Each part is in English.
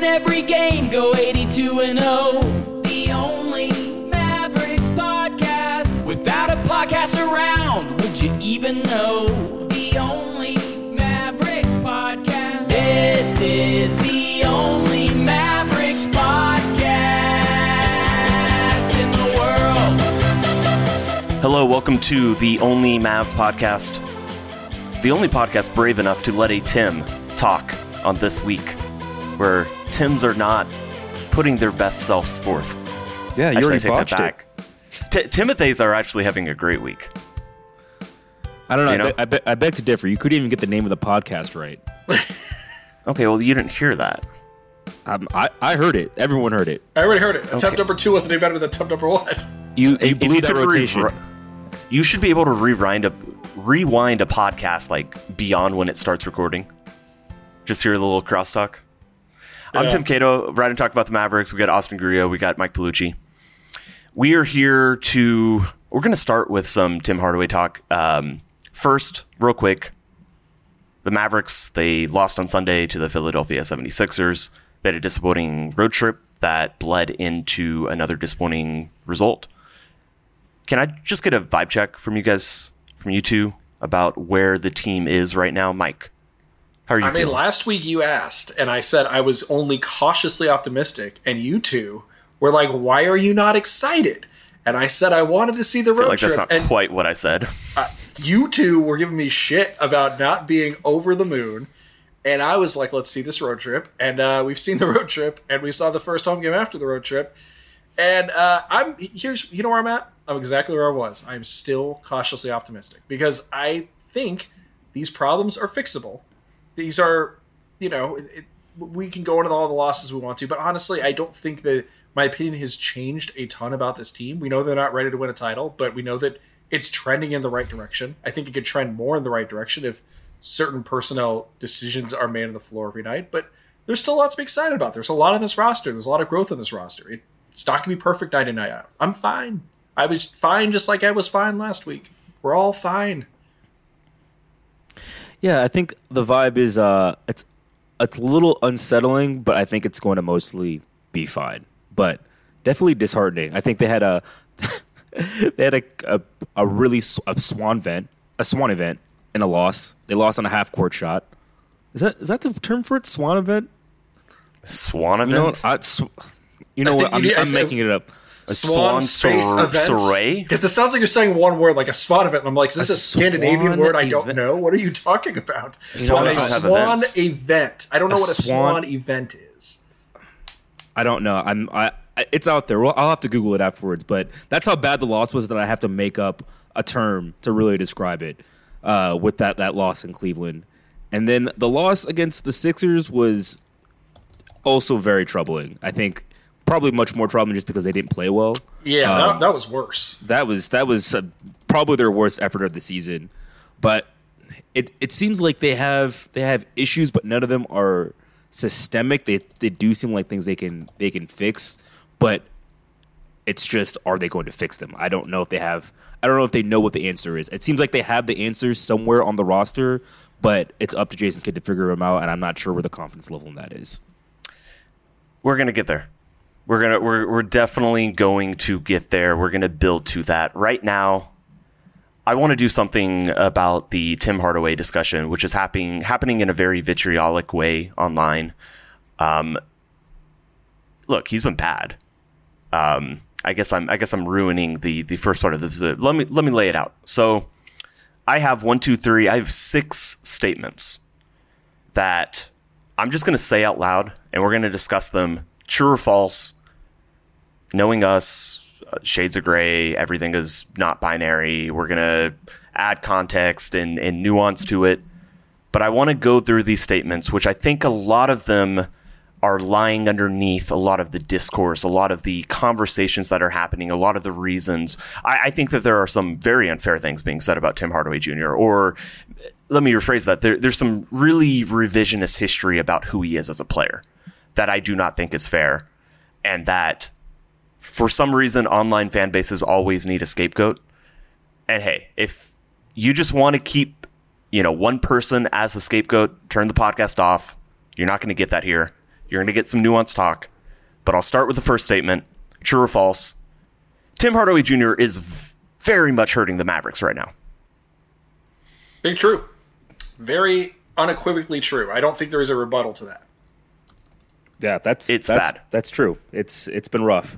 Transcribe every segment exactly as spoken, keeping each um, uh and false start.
win every game, go eighty-two and oh. The only Mavericks podcast. Without a podcast around, would you even know? The only Mavericks podcast. This is the only Mavericks podcast in the world. Hello, welcome to the Only Mavs podcast. The only podcast brave enough to let a Tim talk on this week, where Tims are not putting their best selves forth. Yeah, you actually, already I take botched that back. T- Timothy's are actually having a great week. I don't know. You know? I, be- I, be- I beg to differ. You couldn't even get the name of the podcast right. Okay, well, you didn't hear that. Um, I, I heard it. Everyone heard it. I already heard it. Attempt Okay. number two wasn't any better than attempt number one. You, you If blew you that could rotation. revi- you should be able to rewind a rewind a podcast like beyond when it starts recording. Just hear the little crosstalk. I'm Yeah. Tim Cato, right and talk about the Mavericks. We got Austin Grillo. We got Mike Palucci. We are here to. We're going to start with some Tim Hardaway talk. Um, first, real quick, the Mavericks, they lost on Sunday to the Philadelphia seventy-sixers. They had a disappointing road trip that bled into another disappointing result. Can I just get a vibe check from you guys, from you two, about where the team is right now? Mike, how are you I mean, feeling? last week you asked, and I said I was only cautiously optimistic, and you two were like, why are you not excited? And I said I wanted to see the I feel road like trip. that's not and quite what I said. uh, you two were giving me shit about not being over the moon. And I was like, let's see this road trip. And uh, we've seen the road trip, and we saw the first home game after the road trip. And uh, I'm here's you know where I'm at? I'm exactly where I was. I'm still cautiously optimistic because I think these problems are fixable. These are, you know, it, we can go into all the losses we want to, but honestly, I don't think that my opinion has changed a ton about this team. We know they're not ready to win a title, but we know that it's trending in the right direction. I think it could trend more in the right direction if certain personnel decisions are made on the floor every night, but there's still lots to be excited about. There's a lot on this roster. There's a lot of growth in this roster. It, it's not going to be perfect night in, night out. I'm fine. I was fine just like I was fine last week. We're all fine. Yeah, I think the vibe is uh, it's it's a little unsettling, but I think it's going to mostly be fine. But definitely disheartening. I think they had a they had a a, a really sw- a swan event, a swan event, and a loss. They lost on a half court shot. Is that is that the term for it? Swan event? Swan event? You know, what? I, sw- you know I what? think I'm, you need- I I'm think- making it up. A Swan swan space sor- events. soiree? Because it sounds like you're saying one word, like a swan event. And I'm like, is this A a, Scandinavian swan word I don't event. know? What are you talking about? Swans a don't have swan events. event. I don't know A what a swan- swan event is. I don't know. I'm. I. I- It's out there. Well, I'll have to Google it afterwards. But that's how bad the loss was that I have to make up a term to really describe it. Uh, with that that loss in Cleveland, and then the loss against the Sixers was also very troubling. I think probably much more troubling just because they didn't play well. Yeah, Um, that, that was worse. That was that was uh, probably their worst effort of the season. But it it seems like they have they have issues, but none of them are systemic. They they do seem like things they can they can fix, but it's just, are they going to fix them? I don't know if they have. I don't know if they know what the answer is. It seems like they have the answers somewhere on the roster, but it's up to Jason Kidd to figure them out, and I'm not sure where the confidence level in that is. We're gonna get there. We're gonna we're we're definitely going to get there. We're gonna build to that. Right now, I want to do something about the Tim Hardaway discussion, which is happening happening in a very vitriolic way online. Um, look, he's been bad. Um, I guess I'm I guess I'm ruining the the first part of this. But let me let me lay it out. So, I have one, two, three. I have six statements that I'm just going to say out loud, and we're going to discuss them, true or false, knowing us, uh, shades of gray, everything is not binary. We're going to add context and, and nuance to it. But I want to go through these statements, which I think a lot of them are lying underneath a lot of the discourse, a lot of the conversations that are happening, a lot of the reasons. I, I think that there are some very unfair things being said about Tim Hardaway Junior Or let me rephrase that. There, there's some really revisionist history about who he is as a player that I do not think is fair. And that for some reason, online fan bases always need a scapegoat. And hey, if you just want to keep, you know, one person as the scapegoat, turn the podcast off. You're not going to get that here. You're going to get some nuanced talk, but I'll start with the first statement. True or false? Tim Hardaway Junior is v- very much hurting the Mavericks right now. Big true. Very unequivocally true. I don't think there is a rebuttal to that. Yeah, that's It's that's, bad. That's true. It's it's been rough.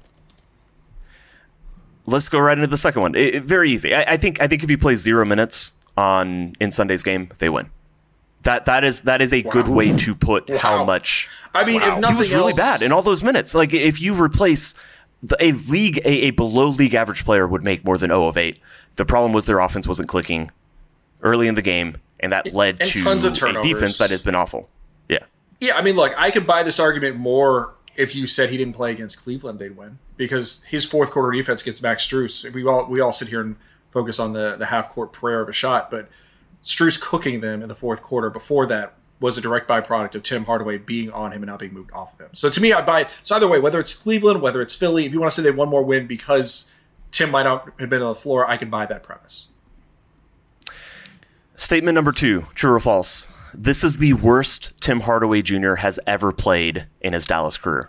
Let's go right into the second one. It, it- very easy. I, I think I think if he plays zero minutes on in Sunday's game, they win. That that is that is a good way to put how Wow. much. I mean, if He nothing was really else, bad in all those minutes. Like if you replace the, a league, a, a below league average player would make more than zero of eight. The problem was their offense wasn't clicking early in the game, and that led and to tons of a turnovers. defense that has been awful. Yeah. Yeah, I mean, look, I could buy this argument more if you said he didn't play against Cleveland, they'd win, because his fourth quarter defense gets Max Strus. We all we all sit here and focus on the the half court prayer of a shot, but Strus cooking them in the fourth quarter before that was a direct byproduct of Tim Hardaway being on him and not being moved off of him. So to me, I buy. So either way, whether it's Cleveland, whether it's Philly, if you want to say they had one more win because Tim might not have been on the floor, I can buy that premise. Statement number two, true or false? This is the worst Tim Hardaway Junior has ever played in his Dallas career.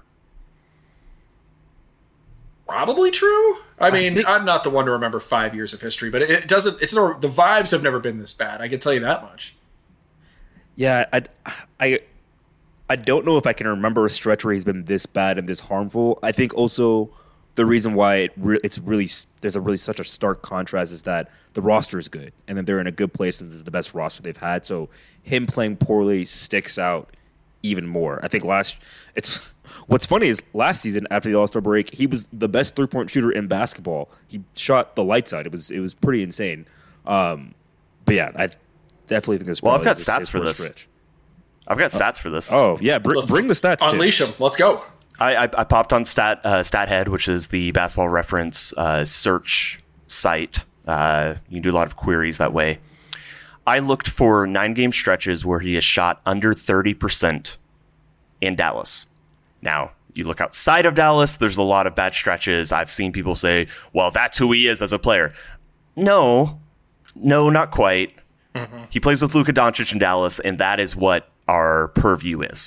Probably true. I mean, think- I'm not the one to remember five years of history, but it, it doesn't. It's no. The vibes have never been this bad. I can tell you that much. Yeah, I, I, I don't know if I can remember a stretch where he's been this bad and this harmful. I think also the reason why it re- it's really there's a really such a stark contrast is that the roster is good and then they're in a good place and this is the best roster they've had. So him playing poorly sticks out even more. I think last it's what's funny is last season after the All-Star break, he was the best three-point shooter in basketball. He shot the lights out. It was it was pretty insane. Um, but yeah, I definitely think this. Well, I've probably got his- stats his for worst this. stretch. I've got stats for this. Oh yeah, br- Let's bring the stats. Tim. Unleash them. Let's go. I, I, I popped on Stat uh, StatHead, which is the basketball reference uh, search site. Uh, you can do a lot of queries that way. I looked for nine game stretches where he has shot under thirty percent in Dallas. Now, you look outside of Dallas, there's a lot of bad stretches. I've seen people say, well, that's who he is as a player. No, no, not quite. Mm-hmm. He plays with Luka Doncic in Dallas, and that is what our purview is.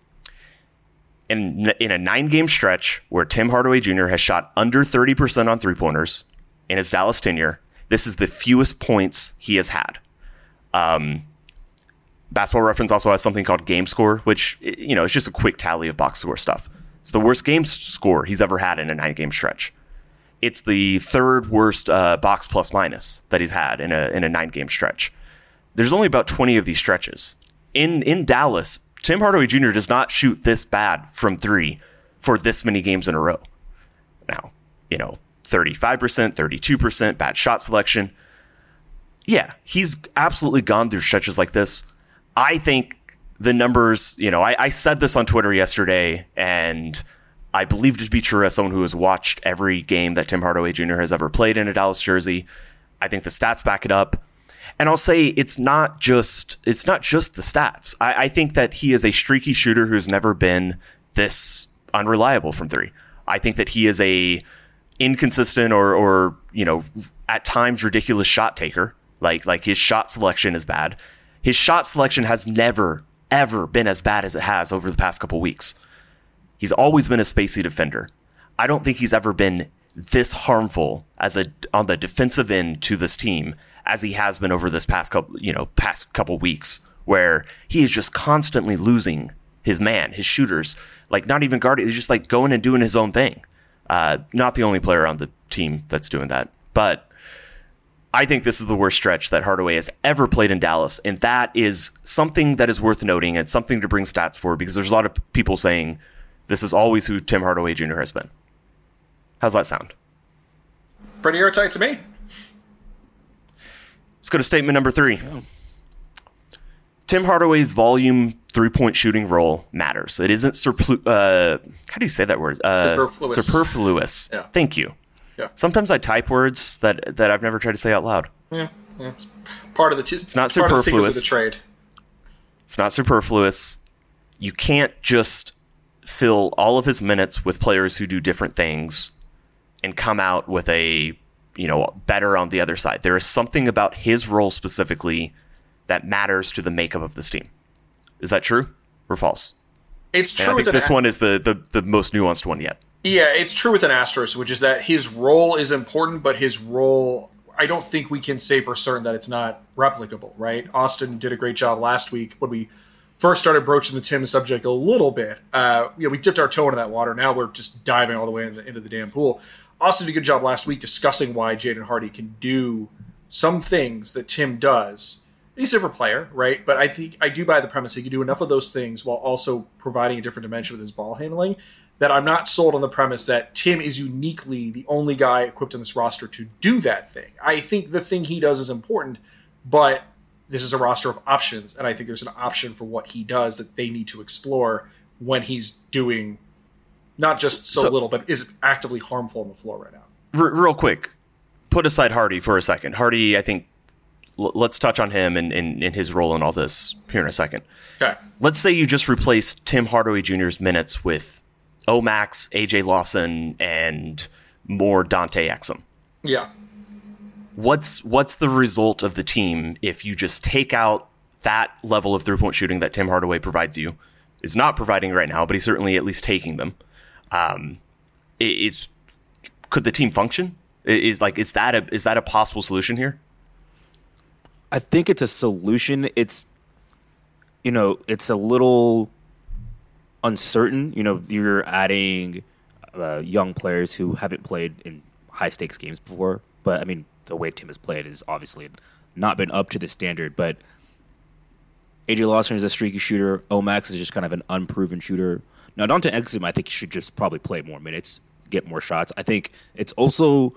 In, in a nine-game stretch where Tim Hardaway Junior has shot under thirty percent on three-pointers in his Dallas tenure, this is the fewest points he has had. Um, Basketball Reference also has something called Game Score, which, you know, it's just a quick tally of box score stuff. It's the worst game score he's ever had in a nine-game stretch. It's the third worst uh, box plus minus that he's had in a in a nine-game stretch. There's only about twenty of these stretches. In in Dallas, Tim Hardaway Junior does not shoot this bad from three for this many games in a row. Now, you know, thirty-five percent, thirty-two percent, bad shot selection. Yeah, he's absolutely gone through stretches like this. I think the numbers, you know, I, I said this on Twitter yesterday, and I believe it to be true as someone who has watched every game that Tim Hardaway Junior has ever played in a Dallas jersey. I think the stats back it up. And I'll say it's not just it's not just the stats. I, I think that he is a streaky shooter who's never been this unreliable from three. I think that he is a inconsistent or or you know at times ridiculous shot taker. Like like his shot selection is bad. His shot selection has never ever been as bad as it has over the past couple weeks. He's always been a spacey defender. I don't think he's ever been this harmful as a on the defensive end to this team as he has been over this past couple, you know, past couple weeks, where he is just constantly losing his man, his shooters, like not even guarding, he's just like going and doing his own thing. Uh, not the only player on the team that's doing that, but I think this is the worst stretch that Hardaway has ever played in Dallas, and that is something that is worth noting and something to bring stats for, because there's a lot of people saying this is always who Tim Hardaway Junior has been. How's that sound? Pretty airtight to me. Let's go to statement number three. Oh. Tim Hardaway's volume three-point shooting role matters. It isn't surplu- uh, how do you say that word? Uh, superfluous. Superfluous. Yeah. Thank you. Yeah. Sometimes I type words that, that I've never tried to say out loud. Yeah, yeah. It's part of the t- it's not part of the superfluous. secrets of the trade. It's not superfluous. You can't just fill all of his minutes with players who do different things and come out with a, you know, better on the other side. There is something about his role specifically that matters to the makeup of this team. Is that true or false? It's true. And I with think an this a- one is the, the, the most nuanced one yet. Yeah, it's true with an asterisk, which is that his role is important, but his role, I don't think we can say for certain that it's not replicable, right? Austin did a great job last week when we first started broaching the Tim subject a little bit. Uh, you know, we dipped our toe into that water. Now we're just diving all the way into the, into the damn pool. Austin did a good job last week discussing why Jaden Hardy can do some things that Tim does. He's a different player, right? But I think I do buy the premise he can do enough of those things while also providing a different dimension with his ball handling, that I'm not sold on the premise that Tim is uniquely the only guy equipped on this roster to do that thing. I think the thing he does is important, but this is a roster of options, and I think there's an option for what he does that they need to explore when he's doing not just so, So- little, but is actively harmful on the floor right now. R- real quick, put aside Hardy for a second. Hardy, I think, l- let's touch on him and, and, and his role in all this here in a second. Okay. Let's say you just replaced Tim Hardaway Junior's minutes with Omax, A J Lawson, and more Dante Exum. Yeah. What's what's the result of the team if you just take out that level of three-point shooting that Tim Hardaway provides you? Is not providing right now, but he's certainly at least taking them. Um, it, it's could the team function? Is like is that a is that a possible solution here? I think it's a solution. It's, you know, it's a little uncertain. You know, you're adding uh, young players who haven't played in high stakes games before. But I mean, the way Tim has played has obviously not been up to the standard. But A J Lawson is a streaky shooter. Omax is just kind of an unproven shooter. Now, Dante Exum, I think, should just probably play more minutes, get more shots. I think it's also,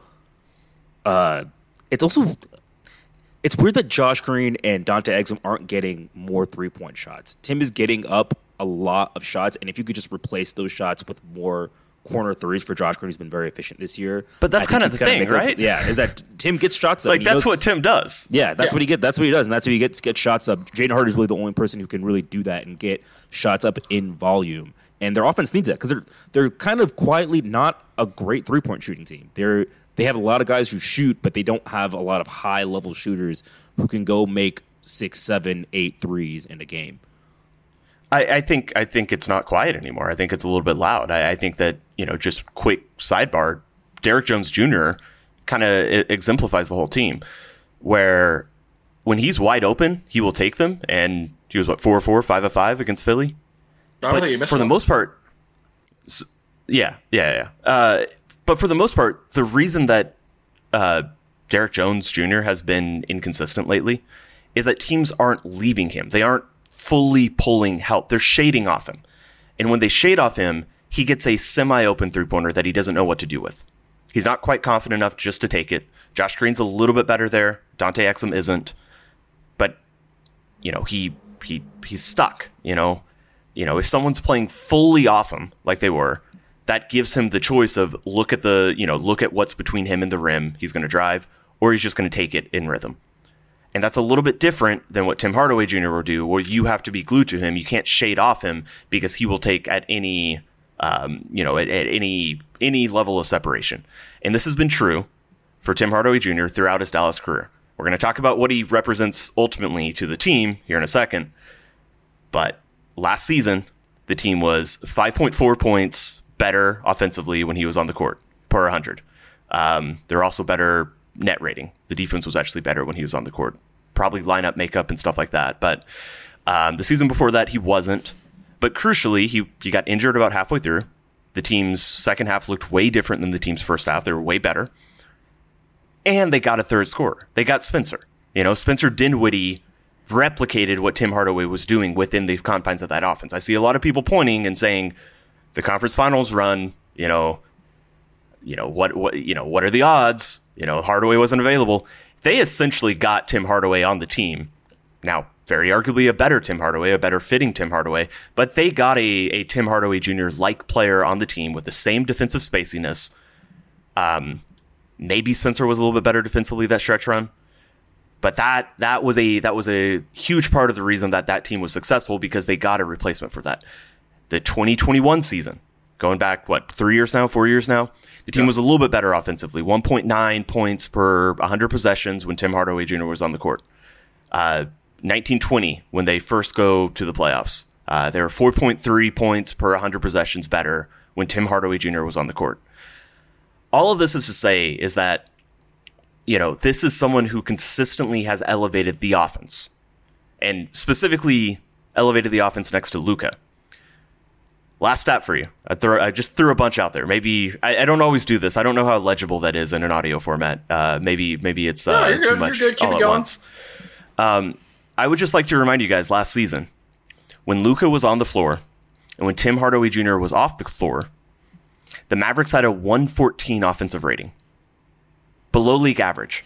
uh, it's also, it's weird that Josh Green and Dante Exum aren't getting more three point shots. Tim is getting up a lot of shots, and if you could just replace those shots with more corner threes for Josh Green, who's been very efficient this year. But that's I think kind of you the thing, make up- right? yeah, is that Tim gets shots up. Like and he that's knows- what Tim does. yeah, that's Yeah. what he get. That's what he does, and that's what he gets. Get shots up. Jaden Hardy is really the only person who can really do that and get shots up in volume. And their offense needs that because they're they're kind of quietly not a great three point shooting team. They're they have a lot of guys who shoot, but they don't have a lot of high level shooters who can go make six, seven, eight threes in a game. I, I think I think it's not quiet anymore. I think it's a little bit loud. I, I think that, you know, just quick sidebar, Derek Jones Junior kind of exemplifies the whole team, where when he's wide open, he will take them. And he was what four or four, five of five against Philly. I don't But think he missed for the one. most part, s- yeah, yeah, yeah. Uh, but for the most part, the reason that uh, Derek Jones Junior has been inconsistent lately is that teams aren't leaving him. They aren't fully pulling help. They're shading off him. And when they shade off him, he gets a semi-open three-pointer that he doesn't know what to do with. He's not quite confident enough just to take it. Josh Green's a little bit better there. Dante Exum isn't. But, you know, he he he's stuck, you know. You know, if someone's playing fully off him like they were, that gives him the choice of look at the, you know, look at what's between him and the rim. He's going to drive, or he's just going to take it in rhythm. And that's a little bit different than what Tim Hardaway Junior will do, where you have to be glued to him. You can't shade off him because he will take at any, um, you know, at, at any any level of separation. And this has been true for Tim Hardaway Junior throughout his Dallas career. We're going to talk about what he represents ultimately to the team here in a second. But last season, the team was five point four points better offensively when he was on the court per one hundred. Um, they're also better net rating. The defense was actually better when he was on the court. Probably lineup makeup and stuff like that. But um, the season before that, he wasn't. But crucially, he, he got injured about halfway through. The team's second half looked way different than the team's first half. They were way better. And they got a third scorer. They got Spencer. You know, Spencer Dinwiddie replicated what Tim Hardaway was doing within the confines of that offense. I see a lot of people pointing and saying the conference finals run, you know, you know, what, what, you know, what are the odds? You know, Hardaway wasn't available. They essentially got Tim Hardaway on the team. Now, very arguably a better Tim Hardaway, a better fitting Tim Hardaway, but they got a, a Tim Hardaway Junior-like player on the team with the same defensive spaciness. Um, maybe Spencer was a little bit better defensively that stretch run, but that that was a that was a huge part of the reason that that team was successful, because they got a replacement for that. The twenty twenty-one season, going back, what, three years now, four years now, the team Yeah. was a little bit better offensively, one point nine points per one hundred possessions when Tim Hardaway Junior was on the court. Uh, nineteen twenty, when they first go to the playoffs, Uh, they were four point three points per one hundred possessions better when Tim Hardaway Junior was on the court. All of this is to say is that, you know, this is someone who consistently has elevated the offense, and specifically elevated the offense next to Luka. Last stat for you. I, throw, I just threw a bunch out there. Maybe I, I don't always do this. I don't know how legible that is in an audio format. Uh, maybe maybe it's uh, no, you're too good, much you're good. Keep all it at going. once. Um, I would just like to remind you guys, last season, when Luka was on the floor and when Tim Hardaway Junior was off the floor, the Mavericks had a one fourteen offensive rating, below league average.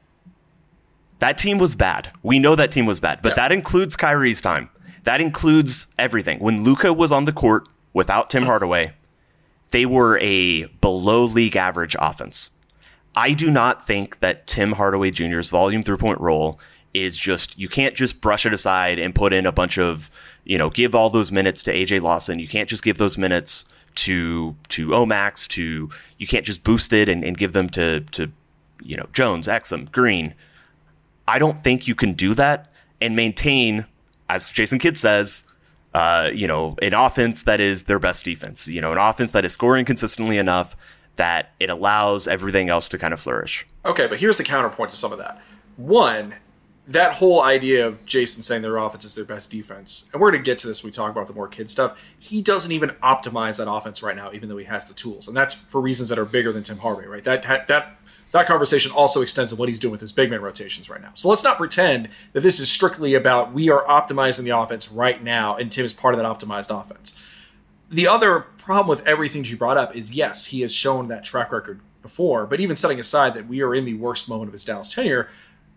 That team was bad. We know that team was bad, but yeah. that includes Kyrie's time. That includes everything. When Luka was on the court without Tim Hardaway, they were a below league average offense. I do not think that Tim Hardaway Junior's volume three-point role is just, you can't just brush it aside and put in a bunch of, you know, give all those minutes to A J Lawson. You can't just give those minutes to to Omax, to, you can't just boost it and, and give them to, to, you know, Jones, Exum, Green. I don't think you can do that and maintain, as Jason Kidd says, uh, you know, an offense that is their best defense, you know, an offense that is scoring consistently enough that it allows everything else to kind of flourish. Okay, but here's the counterpoint to some of that. One, that whole idea of Jason saying their offense is their best defense, and we're going to get to this when we talk about the more kid stuff, he doesn't even optimize that offense right now, even though he has the tools. And that's for reasons that are bigger than Tim Hardaway, right? That that that conversation also extends to what he's doing with his big man rotations right now. So let's not pretend that this is strictly about we are optimizing the offense right now, and Tim is part of that optimized offense. The other problem with everything you brought up is, yes, he has shown that track record before, but even setting aside that we are in the worst moment of his Dallas tenure,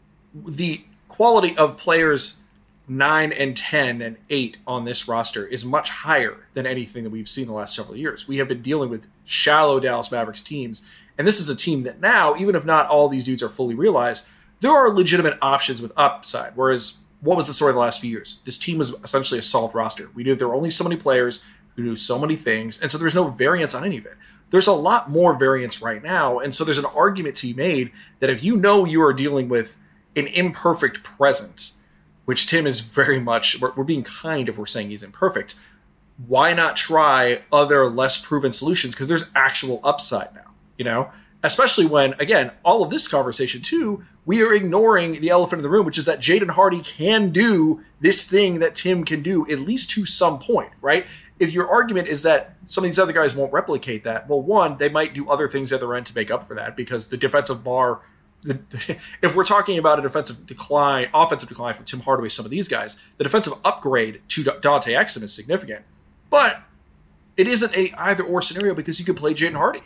the quality of players nine and ten and eight on this roster is much higher than anything that we've seen the last several years. We have been dealing with shallow Dallas Mavericks teams, and this is a team that now, even if not all these dudes are fully realized, there are legitimate options with upside. Whereas, what was the story of the last few years? This team was essentially a solid roster. We knew there were only so many players who knew so many things, and so there's no variance on any of it. There's a lot more variance right now, and so there's an argument to be made that if you know you are dealing with an imperfect present, which Tim is very much, we're, we're being kind if we're saying he's imperfect, why not try other less proven solutions? Because there's actual upside now, you know? Especially when, again, all of this conversation too, we are ignoring the elephant in the room, which is that Jaden Hardy can do this thing that Tim can do, at least to some point, right? If your argument is that some of these other guys won't replicate that, well, one, they might do other things at the end to make up for that, because the defensive bar, the, if we're talking about a defensive decline, offensive decline from Tim Hardaway, some of these guys, the defensive upgrade to Dante Exum is significant. But it isn't a either or scenario because you can play Jaden Hardy.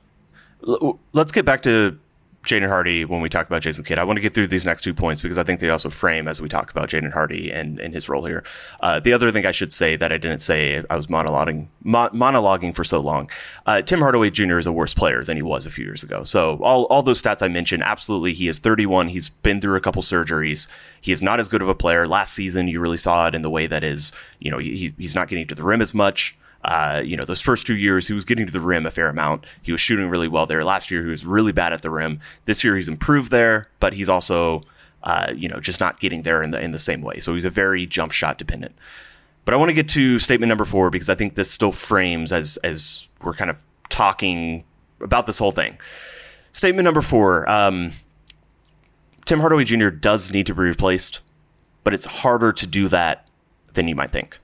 Let's get back to Jaden Hardy when we talk about Jason Kidd. I want to get through these next two points because I think they also frame as we talk about Jaden Hardy and, and his role here. Uh, the other thing I should say that I didn't say, I was monologuing, mo- monologuing for so long. Uh, Tim Hardaway Junior is a worse player than he was a few years ago. So all, all those stats I mentioned, absolutely. He is thirty-one. He's been through a couple surgeries. He is not as good of a player. Last season, you really saw it in the way that is, you know, he, he's not getting to the rim as much. Uh, you know, those first two years, he was getting to the rim a fair amount. He was shooting really well there. Last year, he was really bad at the rim. This year, he's improved there, but he's also, uh, you know, just not getting there in the in the same way. So he's a very jump shot dependent. But I want to get to statement number four because I think this still frames as as we're kind of talking about this whole thing. Statement number four: um, Tim Hardaway Junior does need to be replaced, but it's harder to do that than you might think.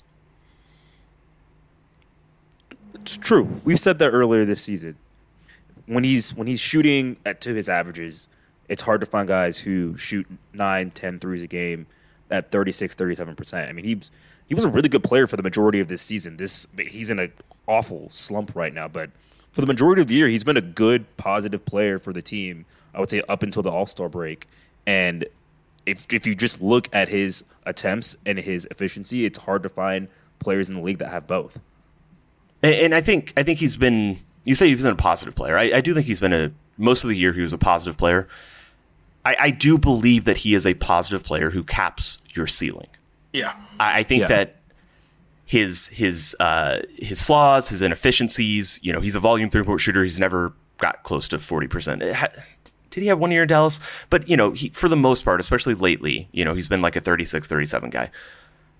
It's true. We've said that earlier this season. When he's when he's shooting at to his averages, it's hard to find guys who shoot nine, ten threes a game at thirty-six, thirty-seven percent. I mean, he was, he was a really good player for the majority of this season. This he's in an awful slump right now, but for the majority of the year, he's been a good, positive player for the team, I would say up until the All-Star break. And if if you just look at his attempts and his efficiency, it's hard to find players in the league that have both. And I think I think he's been. You say he's been a positive player. I, I do think he's been a most of the year. He was a positive player. I, I do believe that he is a positive player who caps your ceiling. Yeah, I, I think yeah. that his his uh, his flaws, his inefficiencies. You know, he's a volume three point shooter. He's never got close to forty percent. Did he have one year in Dallas? But you know, he, for the most part, especially lately, you know, he's been like a thirty-six, thirty-seven guy.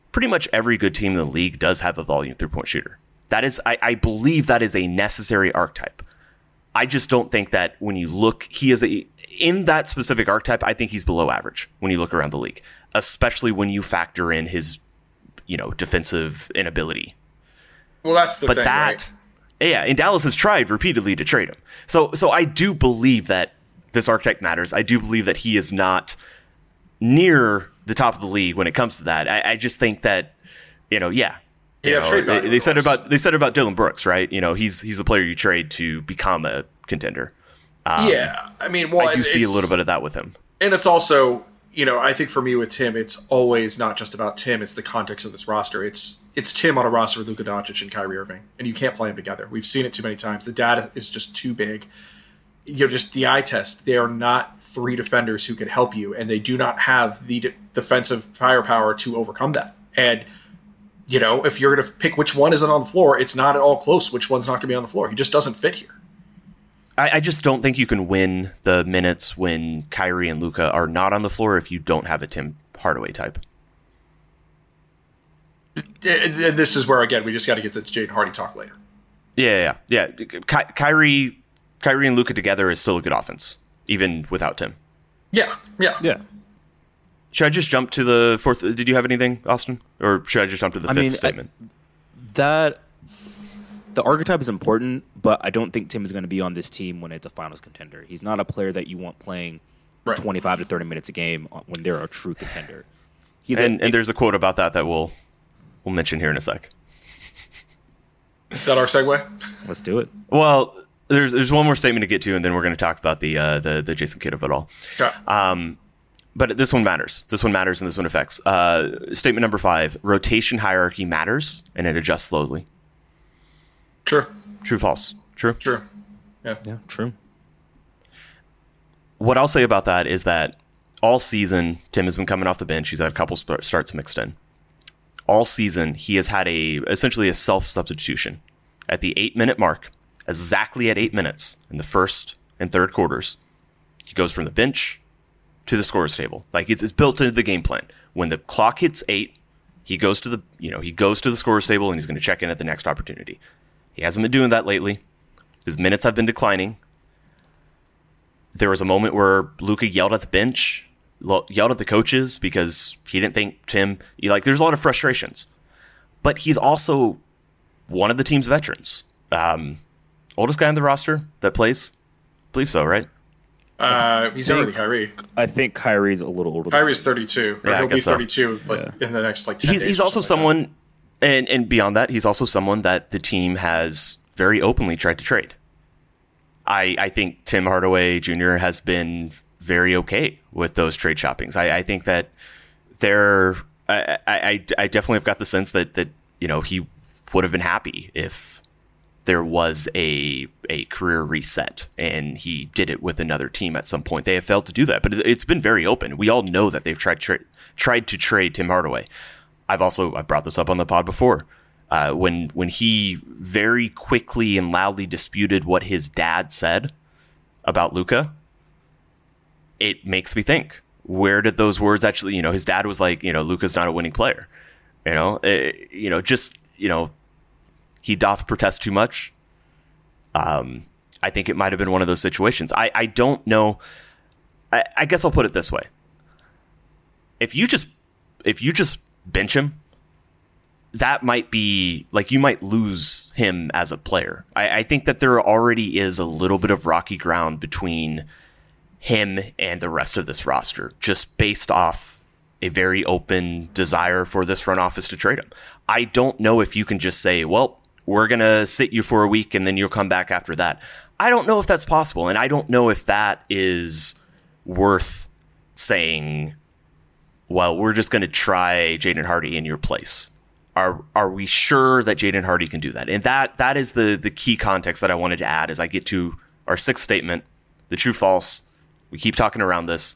pretty much every good team in the league does have a volume three-point shooter. That is, I, I believe that is a necessary archetype. I just don't think that when you look, he is a, in that specific archetype, I think he's below average when you look around the league, especially when you factor in his, you know, defensive inability. Well, that's the but thing, that, right? Yeah, and Dallas has tried repeatedly to trade him. So, so I do believe that this archetype matters. I do believe that he is not near the top of the league when it comes to that. I, I just think that, you know, yeah. You Yeah, know, trade they, value, they of said course. about they said about Dylan Brooks, right? You know, he's he's a player you trade to become a contender. Um, yeah, I mean, well, I do and see a it's- little bit of that with him. And it's also, you know, I think for me with Tim, it's always not just about Tim. It's the context of this roster. It's it's Tim on a roster with Luka Doncic and Kyrie Irving, and you can't play them together. We've seen it too many times. The data is just too big. You know, just the eye test. They are not three defenders who can help you, and they do not have the de- defensive firepower to overcome that. And you know, if you're going to pick which one isn't on the floor, it's not at all close which one's not going to be on the floor. He just doesn't fit here. I, I just don't think you can win the minutes when Kyrie and Luka are not on the floor if you don't have a Tim Hardaway type. And this is where, again, we just got to get to Jaden Hardy talk later. Yeah, yeah, yeah. Ky- Kyrie, Kyrie and Luka together is still a good offense, even without Tim. Yeah, yeah. Yeah. Should I just jump to the fourth? Did you have anything, Austin? Or should I just jump to the I fifth mean, statement? I, that the archetype is important, but I don't think Tim is going to be on this team when it's a finals contender. He's not a player that you want playing Right. twenty-five to thirty minutes a game when they're a true contender. He's and, a, and there's a quote about that that we'll we'll mention here in a sec. Is that our segue? let's do it. Well, there's there's one more statement to get to, and then we're going to talk about the uh, the the Jason Kidd of it all. Okay. Um, but this one matters. This one matters, and this one affects. Uh, statement number five: rotation hierarchy matters, and it adjusts slowly. True. True, false? True. True. Yeah. Yeah, true. What I'll say about that is that all season, Tim has been coming off the bench. He's had a couple sp- starts mixed in. All season, he has had a essentially a self-substitution. At the eight-minute mark, exactly at eight minutes in the first and third quarters, he goes from the bench to the scorer's table. Like it's, it's built into the game plan. When the clock hits eight, he goes to the you know he goes to the scorer's table and he's going to check in at the next opportunity. He hasn't been doing that lately. His minutes have been declining. There was a moment where Luka yelled at the bench, lo- yelled at the coaches because he didn't think Tim. He, like, there's a lot of frustrations, but he's also one of the team's veterans. Um, oldest guy on the roster that plays, I believe so, right? Uh, he's younger than Kyrie. I think Kyrie's a little older. than Kyrie's thirty-two. Or Yeah, I he'll be guess so. thirty-two like, in the next like ten He's days he's or also something like someone, and and beyond that, he's also someone that the team has very openly tried to trade. I, I think Tim Hardaway Junior has been very okay with those trade shoppings. I, I think that they're. I, I, I definitely have got the sense that, that you know he would have been happy if there was a a career reset and he did it with another team at some point. They have failed to do that, but it, it's been very open. We all know that they've tried tra- tried to trade Tim Hardaway. I've also I brought this up on the pod before. Uh, when when he very quickly and loudly disputed what his dad said about Luka, it makes me think, where did those words actually, you know, his dad was like, you know, Luka's not a winning player. You know, eh, you know, just, you know, he doth protest too much. Um, I think it might have been one of those situations. I, I don't know. I, I guess I'll put it this way. If you just if you just bench him, that might be like you might lose him as a player. I, I think that there already is a little bit of rocky ground between him and the rest of this roster, just based off a very open desire for this front office to trade him. I don't know if you can just say, well, we're going to sit you for a week and then you'll come back after that. I don't know if that's possible. And I don't know if that is worth saying, well, we're just going to try Jaden Hardy in your place. Are are we sure that Jaden Hardy can do that? And that that is the the key context that I wanted to add as I get to our sixth statement, the true false. We keep talking around this.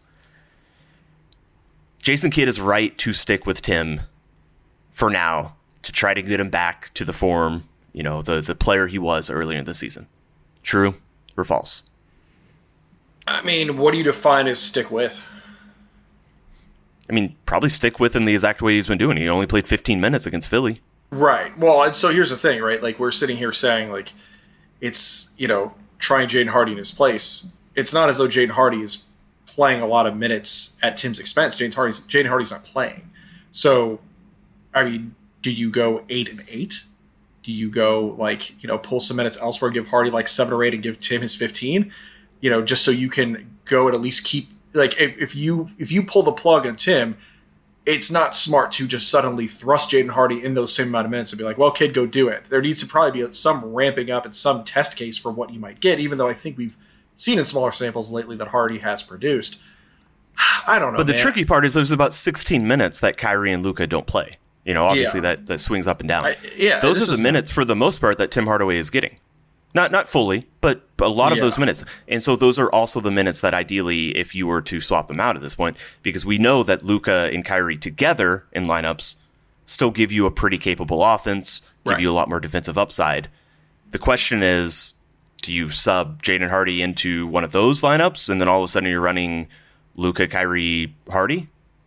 Jason Kidd is right to stick with Tim for now to try to get him back to the form, you know, the the player he was earlier in the season. True or false? I mean, what do you define as stick with? I mean, probably stick with in the exact way he's been doing. He only played fifteen minutes against Philly. Right. Well, and so here's the thing, right? Like, we're sitting here saying, like, it's, you know, trying Jaden Hardy in his place. It's not as though Jaden Hardy is playing a lot of minutes at Tim's expense. Jaden Hardy's, Jaden Hardy's not playing. So, I mean, do you go eight and eight? Do you go, like, you know, pull some minutes elsewhere, give Hardy like seven or eight and give Tim his fifteen? You know, just so you can go and at least keep, like, if, if you if you pull the plug on Tim, it's not smart to just suddenly thrust Jaden Hardy in those same amount of minutes and be like, well, kid, go do it. There needs to probably be some ramping up and some test case for what you might get, even though I think we've seen in smaller samples lately that Hardy has produced. I don't know, But the man. tricky part is there's about sixteen minutes that Kyrie and Luka don't play. You know, obviously Yeah. that, that swings up and down. I- yeah, Those this are the is- minutes, for the most part, that Tim Hardaway is getting. Not not fully, but a lot of Yeah. those minutes. And so those are also the minutes that ideally, if you were to swap them out at this point, because we know that Luka and Kyrie together in lineups still give you a pretty capable offense, give Right. you a lot more defensive upside. The question is, do you sub Jaden Hardy into one of those lineups, and then all of a sudden you're running Luka, Kyrie, Hardy?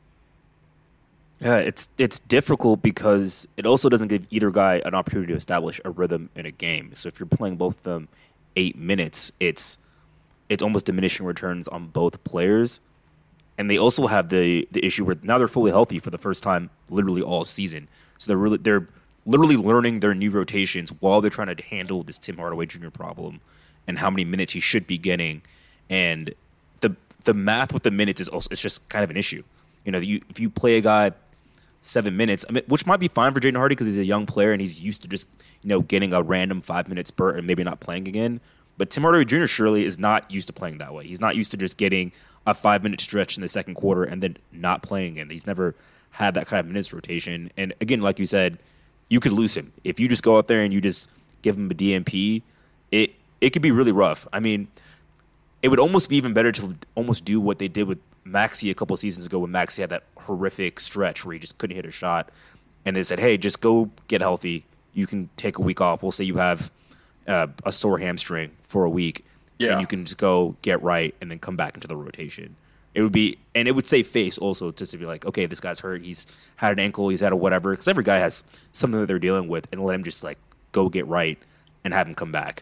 Yeah, it's it's difficult because it also doesn't give either guy an opportunity to establish a rhythm in a game. So if you're playing both of them eight minutes, it's it's almost diminishing returns on both players. And they also have the the issue where now they're fully healthy for the first time literally all season. So they're really they're literally learning their new rotations while they're trying to handle this Tim Hardaway Junior problem and how many minutes he should be getting. And the the math with the minutes is also it's just kind of an issue. You know, you if you play a guy seven minutes, I mean, which might be fine for Jaden Hardy because he's a young player and he's used to just, you know, getting a random five minute spurt and maybe not playing again. But Tim Hardaway Junior surely is not used to playing that way. He's not used to just getting a five minute stretch in the second quarter and then not playing again. He's never had that kind of minutes rotation. And again, like you said, you could lose him if you just go out there and you just give him a D M P. It it could be really rough. I mean, it would almost be even better to almost do what they did with Maxey a couple of seasons ago when Maxey had that horrific stretch where he just couldn't hit a shot. And they said, hey, just go get healthy. You can take a week off. We'll say you have uh, a sore hamstring for a week. Yeah. And you can just go get right and then come back into the rotation. It would be, and it would save face also just to be like, okay, this guy's hurt. He's had an ankle. He's had a whatever. Because every guy has something that they're dealing with, and let him just like go get right and have him come back.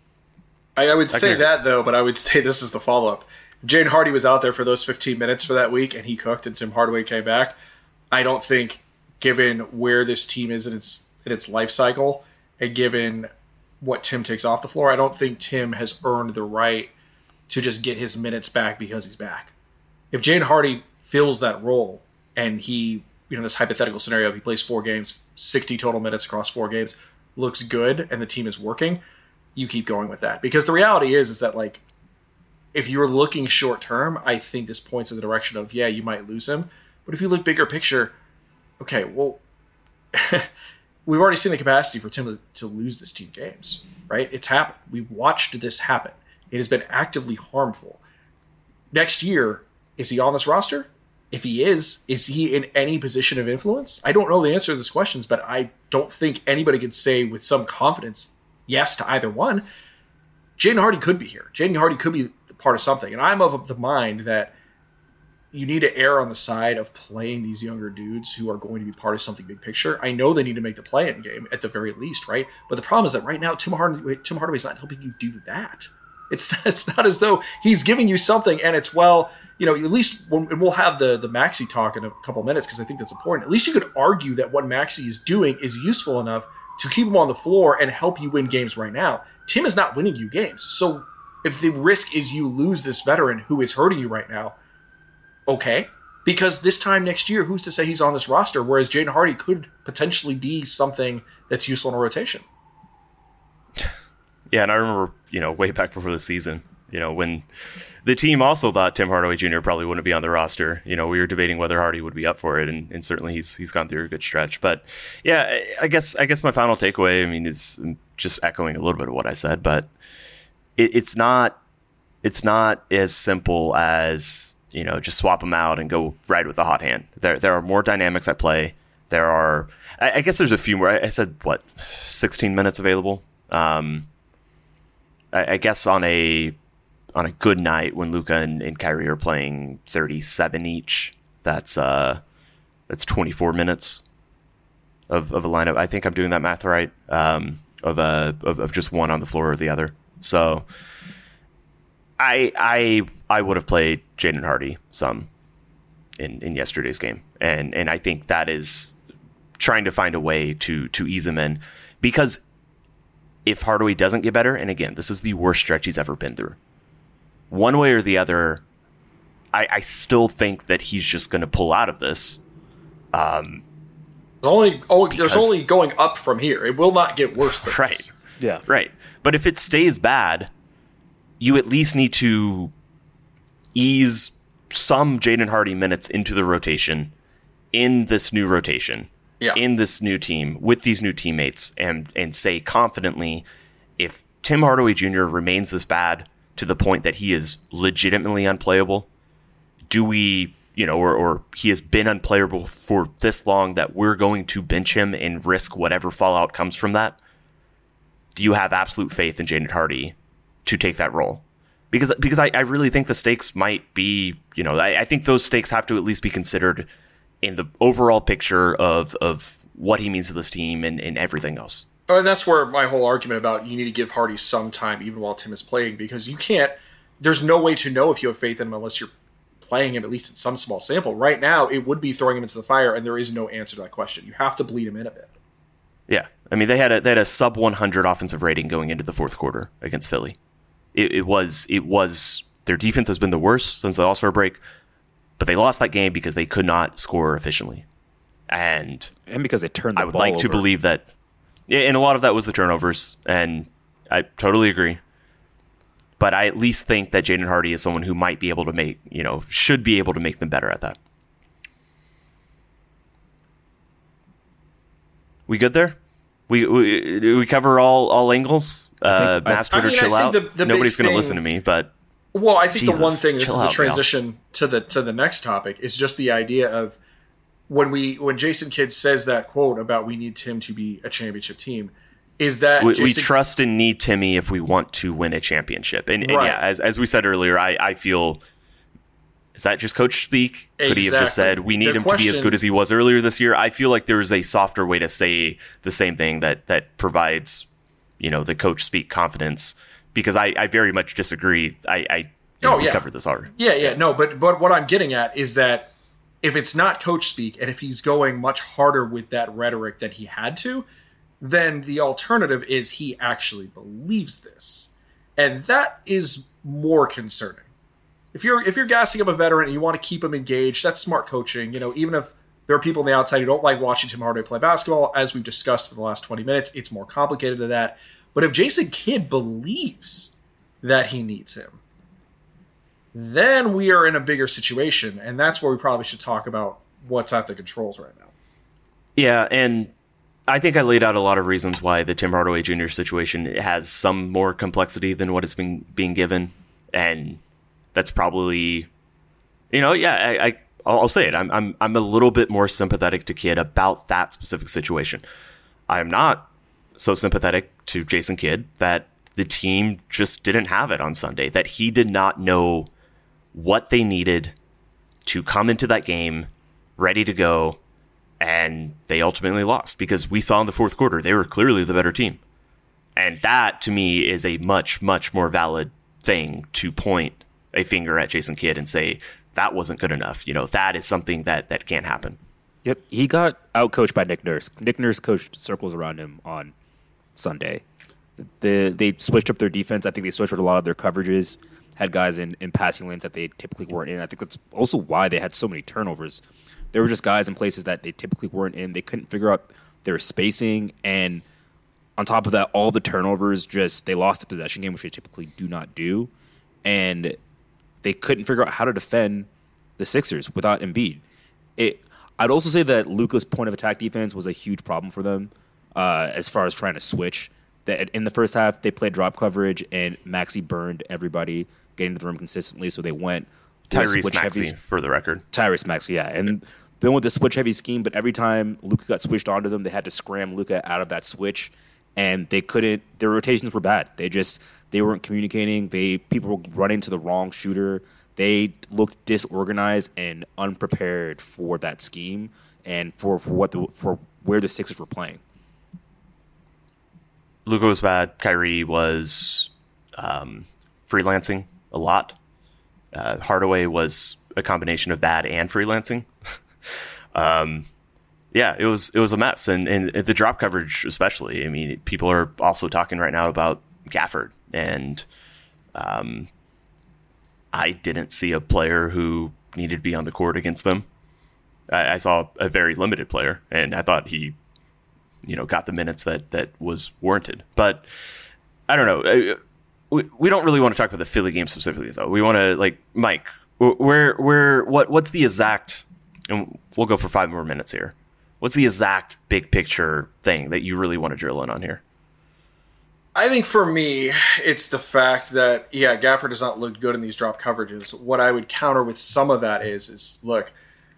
I, I would say agree. that, though, but I would say this is the follow-up. If Jaden Hardy was out there for those fifteen minutes for that week and he cooked and Tim Hardaway came back, I don't think, given where this team is in its in its life cycle and given what Tim takes off the floor, I don't think Tim has earned the right to just get his minutes back because he's back. If Jaden Hardy fills that role and he, you know, this hypothetical scenario, he plays four games, sixty total minutes across four games, looks good, and the team is working, you keep going with that. Because the reality is, is that, like, if you're looking short term, I think this points in the direction of, yeah, you might lose him. But if you look bigger picture, okay, well, we've already seen the capacity for Tim to, to lose this team games, right? It's happened. We've watched this happen. It has been actively harmful. Next year, is he on this roster? If he is, is he in any position of influence? I don't know the answer to these questions, but I don't think anybody could say with some confidence yes to either one. Jaden Hardy could be here. Jaden Hardy could be part of something. And I'm of the mind that you need to err on the side of playing these younger dudes who are going to be part of something big picture. I know they need to make the play-in game at the very least, right? But the problem is that right now, Tim Hardaway, Tim Hardaway's not helping you do that. It's it's not as though he's giving you something and it's, well, you know, at least when, and we'll have the, the Maxey talk in a couple minutes because I think that's important. At least you could argue that what Maxey is doing is useful enough to keep him on the floor and help you win games right now. Tim is not winning you games. So if the risk is you lose this veteran who is hurting you right now, okay. Because this time next year, who's to say he's on this roster, whereas Jaden Hardy could potentially be something that's useful in a rotation. Yeah, and I remember, you know, way back before the season, you know, when the team also thought Tim Hardaway Junior probably wouldn't be on the roster. You know, we were debating whether Hardy would be up for it, and, and certainly he's he's gone through a good stretch. But yeah, I guess I guess my final takeaway, I mean, is just echoing a little bit of what I said, but it, it's not it's not as simple as, you know, just swap them out and go right with the hot hand. There there are more dynamics at play. There are, I, I guess there's a few more. I said, what, sixteen minutes available? Um, I, I guess on a on a good night when Luka and, and Kyrie are playing thirty-seven each, That's uh, that's twenty-four minutes of, of a lineup. I think I'm doing that math right. Um, of a of, of just one on the floor or the other. So I I I would have played Jaden Hardy some in, in yesterday's game, and and I think that is trying to find a way to to ease him in, because if Hardaway doesn't get better, and again, this is the worst stretch he's ever been through, one way or the other, I, I still think that he's just going to pull out of this. Um, there's only oh, because, there's only going up from here. It will not get worse than right. this. Yeah. Right. But if it stays bad, you at least need to ease some Jaden Hardy minutes into the rotation in this new rotation, yeah. in this new team, with these new teammates, and and say confidently, if Tim Hardaway Junior remains this bad to the point that he is legitimately unplayable, do we, you know, or, or he has been unplayable for this long that we're going to bench him and risk whatever fallout comes from that? Do you have absolute faith in Jaden Hardy to take that role? Because because I, I really think the stakes might be, you know, I, I think those stakes have to at least be considered in the overall picture of of what he means to this team and, and everything else. Oh, and that's where my whole argument about you need to give Hardy some time even while Tim is playing, because you can't, there's no way to know if you have faith in him unless you're playing him at least in some small sample. Right now, it would be throwing him into the fire, and there is no answer to that question. You have to bleed him in a bit. Yeah. I mean, they had a they had a sub one hundred offensive rating going into the fourth quarter against Philly. It, it was it was their defense has been the worst since the All-Star break, but they lost that game because they could not score efficiently, and and because they turned the I would ball like to over. believe that, and a lot of that was the turnovers, and I totally agree. But I at least think that Jaden Hardy is someone who might be able to make, you know, should be able to make them better at that. We good there? We we, we cover all all angles. Uh, Mass Twitter, I mean, chill I out. think the- the Nobody's big going to thing- listen to me, but Well, I think Jesus, the one thing, this chill is the out, transition to the to the next topic, is just the idea of when we when Jason Kidd says that quote about we need Tim to be a championship team, is that we, Jason, we trust and need Timmy if we want to win a championship. And, and Right. yeah, as as we said earlier, I, I feel, is that just coach speak? Could he have just Exactly. said we need The him to be as question- good as he was earlier this year? I feel like there is a softer way to say the same thing that that provides, you know, the coach speak confidence, because I, I very much disagree. I, I you know, Oh, we yeah. covered this already. Yeah, yeah, no, but but what I'm getting at is that if it's not coach speak, and if he's going much harder with that rhetoric than he had to, then the alternative is he actually believes this, and that is more concerning. If you're if you're gassing up a veteran and you want to keep him engaged, that's smart coaching. You know, even if there are people on the outside who don't like watching Tim Hardaway play basketball, as we've discussed for the last twenty minutes, it's more complicated than that. But if Jason Kidd believes that he needs him, then we are in a bigger situation, and that's where we probably should talk about what's at the controls right now. Yeah, and I think I laid out a lot of reasons why the Tim Hardaway Junior situation has some more complexity than what is being being given, and that's probably, you know, yeah, I, I I'll say it. I'm I'm I'm a little bit more sympathetic to Kidd about that specific situation. I am not so sympathetic to Jason Kidd that the team just didn't have it on Sunday, that he did not know what they needed to come into that game ready to go, and they ultimately lost, because we saw in the fourth quarter they were clearly the better team. And that, to me, is a much, much more valid thing to point a finger at Jason Kidd and say, that wasn't good enough. You know, that is something that, that can't happen. Yep, he got outcoached by Nick Nurse. Nick Nurse coached circles around him on Sunday. The, they switched up their defense. I think they switched up a lot of their coverages, had guys in, in passing lanes that they typically weren't in. I think that's also why they had so many turnovers. There were just guys in places that they typically weren't in. They couldn't figure out their spacing, and on top of that, all the turnovers, just they lost the possession game, which they typically do not do, and they couldn't figure out how to defend the Sixers without Embiid. It, I'd also say that Luka's point of attack defense was a huge problem for them uh, as far as trying to switch. That in the first half, they played drop coverage, and Maxey burned everybody getting to the rim consistently, so they went Tyrese Maxey, for the record. Tyrese Maxey, yeah. And they went with the switch-heavy scheme, but every time Luka got switched onto them, they had to scram Luka out of that switch, and they couldn't – their rotations were bad. They just – they weren't communicating. They People were running to the wrong shooter. they looked disorganized and unprepared for that scheme and for, for what the, for where the Sixers were playing. Luka was bad. Kyrie was um, freelancing a lot. Uh, Hardaway was a combination of bad and freelancing. um, yeah, it was it was a mess, and and the drop coverage especially. I mean, people are also talking right now about Gafford, and um, I didn't see a player who needed to be on the court against them. I, I saw a very limited player, and I thought he, you know, got the minutes that that was warranted. But I don't know. We, we don't really want to talk about the Philly game specifically, though. We want to, like, Mike, where where what what's the exact? And we'll go for five more minutes here. What's the exact big picture thing that you really want to drill in on here? I think for me, it's the fact that, yeah, Gafford does not look good in these drop coverages. What I would counter with some of that is, is look,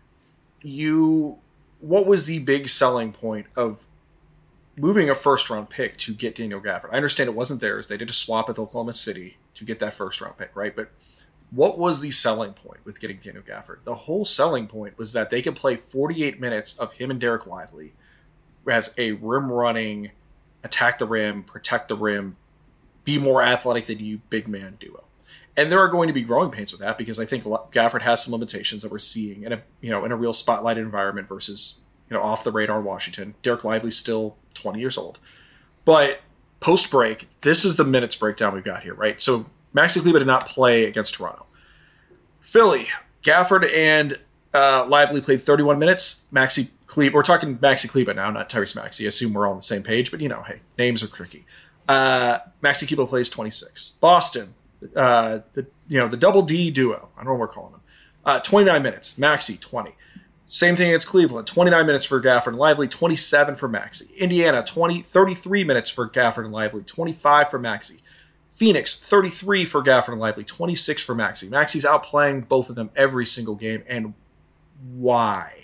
you, what was the big selling point of moving a first-round pick to get Daniel Gafford? I understand it wasn't theirs. They did a swap with Oklahoma City to get that first-round pick, right? But what was the selling point with getting Daniel Gafford? The whole selling point was that they could play forty-eight minutes of him and Derek Lively as a rim-running, attack the rim, protect the rim, be more athletic than you big man duo. And there are going to be growing pains with that because I think Gafford has some limitations that we're seeing in a you know in a real spotlight environment versus you know off the radar Washington. Derek Lively's still twenty years old. But post break, this is the minutes breakdown we've got here, right? So Maxi Kleber did not play against Toronto. Philly, Gafford and uh, Lively played thirty-one minutes. Maxi Kleber, we're talking Maxi Kleber now, not Tyrese Maxey. I assume we're all on the same page, but you know, hey, names are tricky. Uh, Maxi Kleber plays twenty-six. Boston, uh, the you know the double D duo. I don't know what we're calling them. Uh, twenty-nine minutes. Maxi twenty. Same thing against Cleveland. twenty-nine minutes for Gafford and Lively. twenty-seven for Maxi. Indiana, twenty, thirty-three minutes for Gafford and Lively. twenty-five for Maxi. Phoenix, thirty-three for Gafford and Lively. twenty-six for Maxi. Maxi's outplaying both of them every single game. And why?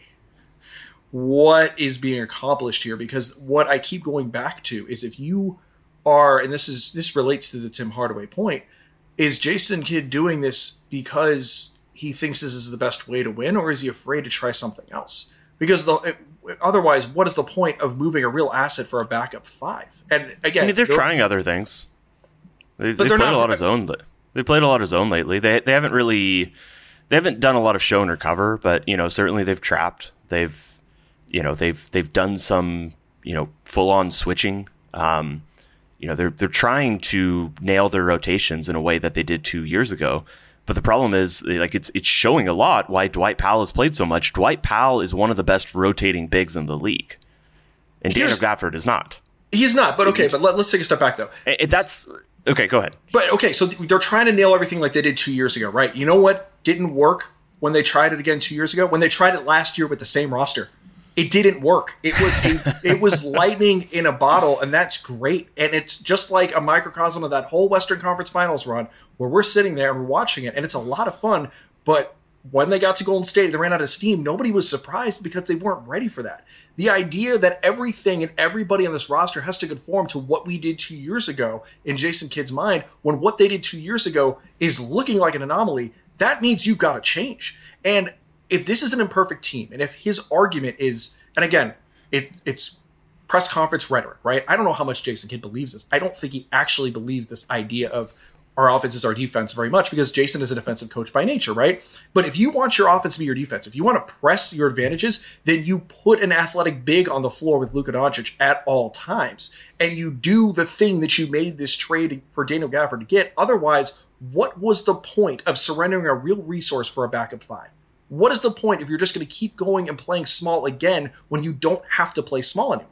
What is being accomplished here? Because what I keep going back to is if you are, and this is this relates to the Tim Hardaway point, is Jason Kidd doing this because he thinks this is the best way to win, or is he afraid to try something else? Because the, it, otherwise, what is the point of moving a real asset for a backup five? And again, I mean, they're, they're trying other things. They've, they've played not, a lot of zone. They played a lot of zone lately. They they haven't really, they haven't done a lot of show and recover, but you know certainly they've trapped. They've, you know they've they've done some you know full on switching. Um, you know they're they're trying to nail their rotations in a way that they did two years ago. But the problem is, like, it's it's showing a lot why Dwight Powell has played so much. Dwight Powell is one of the best rotating bigs in the league, and Daniel Gafford is not. He's not. But okay, but let, let's take a step back though. It, it, that's. Okay, go ahead. But, okay, so they're trying to nail everything like they did two years ago, right? You know what didn't work when they tried it again two years ago? When they tried it last year with the same roster. It didn't work. It was a, it was lightning in a bottle, and that's great. And it's just like a microcosm of that whole Western Conference Finals run where we're sitting there and we're watching it, and it's a lot of fun. But when they got to Golden State, they ran out of steam. Nobody was surprised because they weren't ready for that. The idea that everything and everybody on this roster has to conform to what we did two years ago in Jason Kidd's mind, when what they did two years ago is looking like an anomaly, that means you've got to change. And if this is an imperfect team, and if his argument is, and again, it, it's press conference rhetoric, right? I don't know how much Jason Kidd believes this. I don't think he actually believes this idea of our offense is our defense very much, because Jason is a defensive coach by nature, right? But if you want your offense to be your defense, if you want to press your advantages, then you put an athletic big on the floor with Luka Doncic at all times. And you do the thing that you made this trade for Daniel Gafford to get. Otherwise, what was the point of surrendering a real resource for a backup five? What is the point if you're just going to keep going and playing small again when you don't have to play small anymore?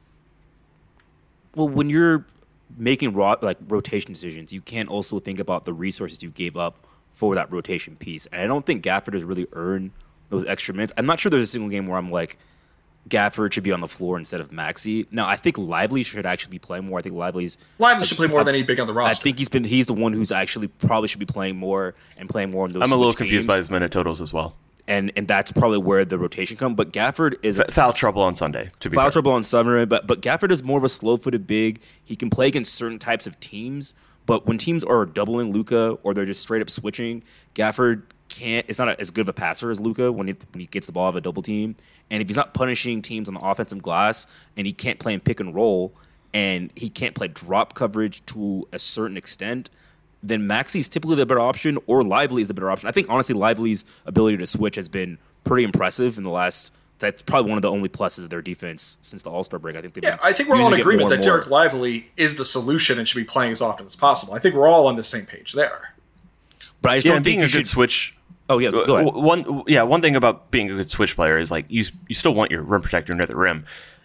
Well, when you're making raw, like rotation decisions, you can't also think about the resources you gave up for that rotation piece. And I don't think Gafford has really earned those extra minutes. I'm not sure there's a single game where I'm like, Gafford should be on the floor instead of Maxey. No, I think Lively should actually be playing more. I think Lively's Lively should play more than any big on the roster. I think he's been he's the one who's actually probably should be playing more and playing more in those. I'm a little games. confused by his minute totals as well. And and that's probably where the rotation comes. But Gafford is F- foul trouble on Sunday. To be foul fair. trouble on Sunday, but but Gafford is more of a slow-footed big. He can play against certain types of teams, But when teams are doubling Luka or they're just straight up switching, Gafford can't. It's not a, as good of a passer as Luka when he when he gets the ball of a double team. And if he's not punishing teams on the offensive glass, and he can't play in pick and roll, and he can't play drop coverage to a certain extent, then Maxi's typically the better option, or Lively is the better option. I think honestly, Lively's ability to switch has been pretty impressive in the last. That's probably one of the only pluses of their defense since the All-Star break. I think. Yeah, I think we're all in agreement that Derek Lively is the solution and should be playing as often as possible. I think we're all on the same page there. But I just yeah, don't being think a you good should... switch. Oh yeah, go ahead. One yeah, one thing about being a good switch player is like you you still want your rim protector near the rim.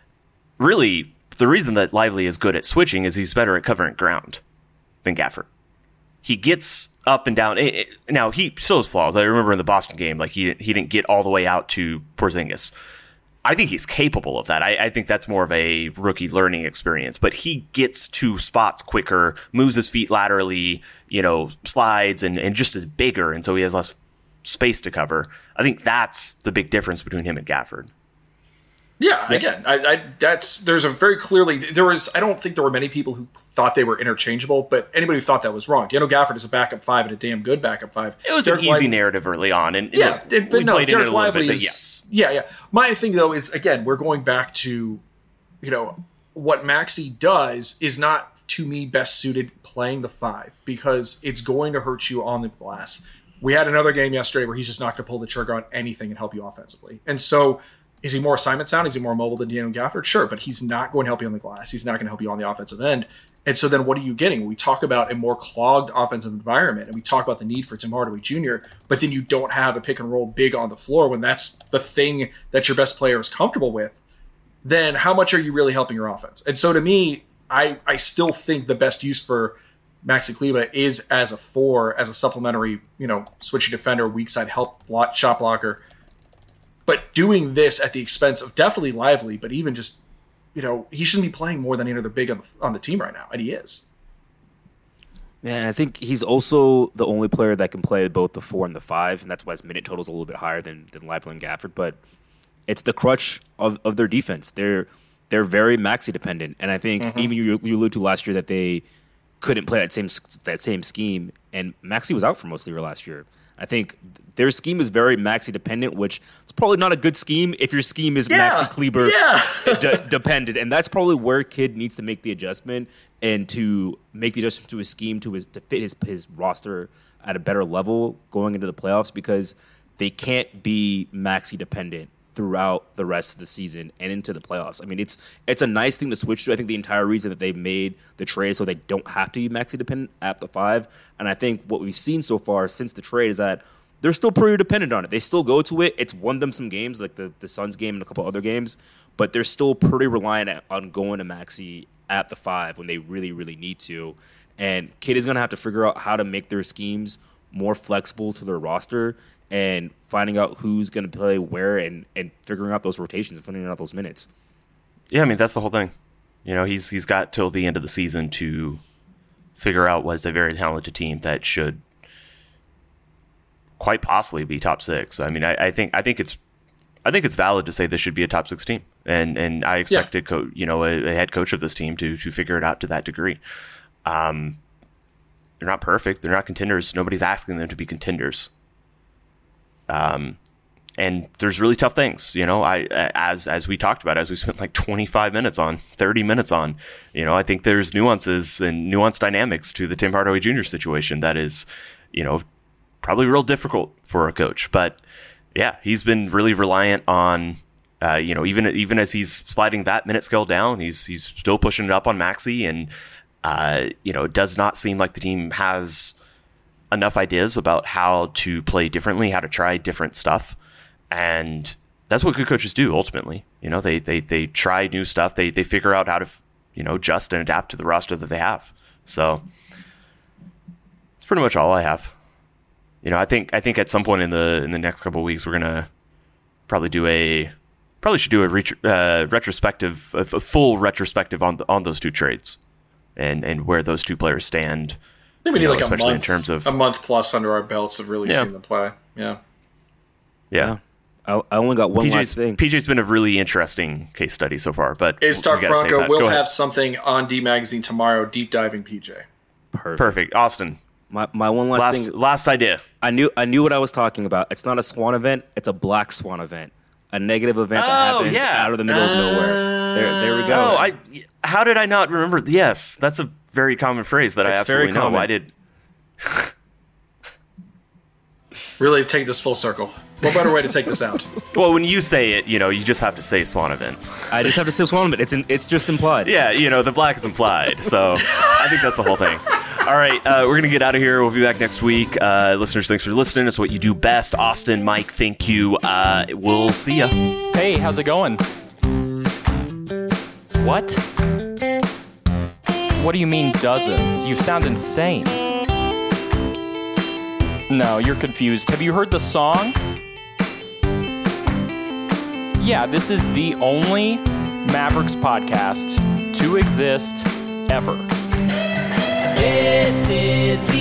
Really, the reason that Lively is good at switching is he's better at covering ground than Gafford. He gets up and down. It, it, now he still has flaws. I remember in the Boston game, like he he didn't get all the way out to Porzingis. I think he's capable of that. I, I think that's more of a rookie learning experience. But he gets to spots quicker, moves his feet laterally, you know, slides, and, and just is bigger, and so he has less space to cover. I think that's the big difference between him and Gafford. Yeah, yeah. again, I, I that's there's a very clearly there was. I don't think there were many people who thought they were interchangeable, but anybody who thought that was wrong. Daniel Gafford is a backup five and a damn good backup five. It was Derek an easy Lively, narrative early on, and yeah, look, it, but we no, played Derek in it a little Lively bit, is but yes, yeah, yeah. My thing though is again we're going back to, you know, what Maxey does is not to me best suited playing the five because it's going to hurt you on the glass. We had another game yesterday where he's just not going to pull the trigger on anything and help you offensively. And so is he more assignment sound? Is he more mobile than Daniel Gafford? Sure, but he's not going to help you on the glass. He's not going to help you on the offensive end. And so then what are you getting? We talk about a more clogged offensive environment, and we talk about the need for Tim Hardaway Junior, but then you don't have a pick and roll big on the floor when that's the thing that your best player is comfortable with. Then how much are you really helping your offense? And so to me, I, I still think the best use for Maxi Kleber is as a four, as a supplementary, you know, switchy defender, weak side help block, shot blocker. But doing this at the expense of definitely Lively, but even just, you know, he shouldn't be playing more than any other big on the, on the team right now, and he is. Man, I think he's also the only player that can play both the four and the five, and that's why his minute total is a little bit higher than than Lively and Gafford. But it's the crutch of, of their defense. They're they're very Maxi dependent, and I think mm-hmm. even you, you alluded to last year that they couldn't play that same that same scheme, and Maxi was out for most of the year last year. I think their scheme is very Maxi dependent, which is probably not a good scheme if your scheme is yeah, Maxi Kleber yeah. de- dependent, and that's probably where Kidd needs to make the adjustment and to make the adjustment to his scheme to his to fit his his roster at a better level going into the playoffs, because they can't be Maxi dependent throughout the rest of the season and into the playoffs. I mean, it's it's a nice thing to switch to. I think the entire reason that they made the trade so they don't have to be Maxi dependent at the five. And I think what we've seen so far since the trade is that they're still pretty dependent on it. They still go to it. It's won them some games, like the, the Suns game and a couple other games, but they're still pretty reliant on going to Maxi at the five when they really, really need to. And Kidd is going to have to figure out how to make their schemes more flexible to their roster and finding out who's going to play where and, and figuring out those rotations and figuring out those minutes. Yeah, I mean, that's the whole thing. You know, he's he's got till the end of the season to figure out what's a very talented team that should quite possibly be top six. I mean, I, I think I think it's I think it's valid to say this should be a top six team, and and I expected yeah. co- you know a, a head coach of this team to to figure it out to that degree. Um, they're not perfect. They're not contenders. Nobody's asking them to be contenders. Um, and there's really tough things, you know, I, as, as we talked about, as we spent like twenty-five minutes on, thirty minutes on, you know, I think there's nuances and nuanced dynamics to the Tim Hardaway Junior situation that is, you know, probably real difficult for a coach, but yeah, he's been really reliant on, uh, you know, even, even as he's sliding that minute scale down, he's, he's still pushing it up on Maxi, and, uh, you know, it does not seem like the team has enough ideas about how to play differently, how to try different stuff. And that's what good coaches do ultimately. You know, they they they try new stuff. They they figure out how to, you know, adjust and adapt to the roster that they have. So that's pretty much all I have. You know, I think I think at some point in the in the next couple of weeks we're gonna probably do a probably should do a ret- uh, retrospective, a, a full retrospective on the, on those two trades and and where those two players stand. I think we need you know, like a especially month, in terms of a month plus under our belts of really yeah. seeing them play. Yeah, yeah. I, I only got one P J's, last thing. P J's been a really interesting case study so far, but Is Stark we gotta save Franco that. will Go ahead. have something on D Magazine tomorrow, deep diving P J. Perfect. Perfect. Austin, My my one last, last thing. last idea. I knew I knew what I was talking about. It's not a swan event. It's a black swan event. A negative event that Oh, happens yeah. out of the middle of nowhere. There, there we go. Oh, I. How did I not remember? Yes, that's a very common phrase that I It's absolutely very know. common. I did. Really take this full circle. What better way to take this out? Well, when you say it, you know, you just have to say swan event. I just have to say swan event. It's in, it's just implied. Yeah, you know, the black is implied. So I think that's the whole thing. All right, uh, we're going to get out of here. We'll be back next week. Uh, listeners, thanks for listening. It's what you do best. Austin, Mike, thank you. Uh, we'll see ya. Hey, how's it going? What? What do you mean dozens? You sound insane. No, you're confused. Have you heard the song? Yeah, this is the only Mavericks podcast to exist ever. This is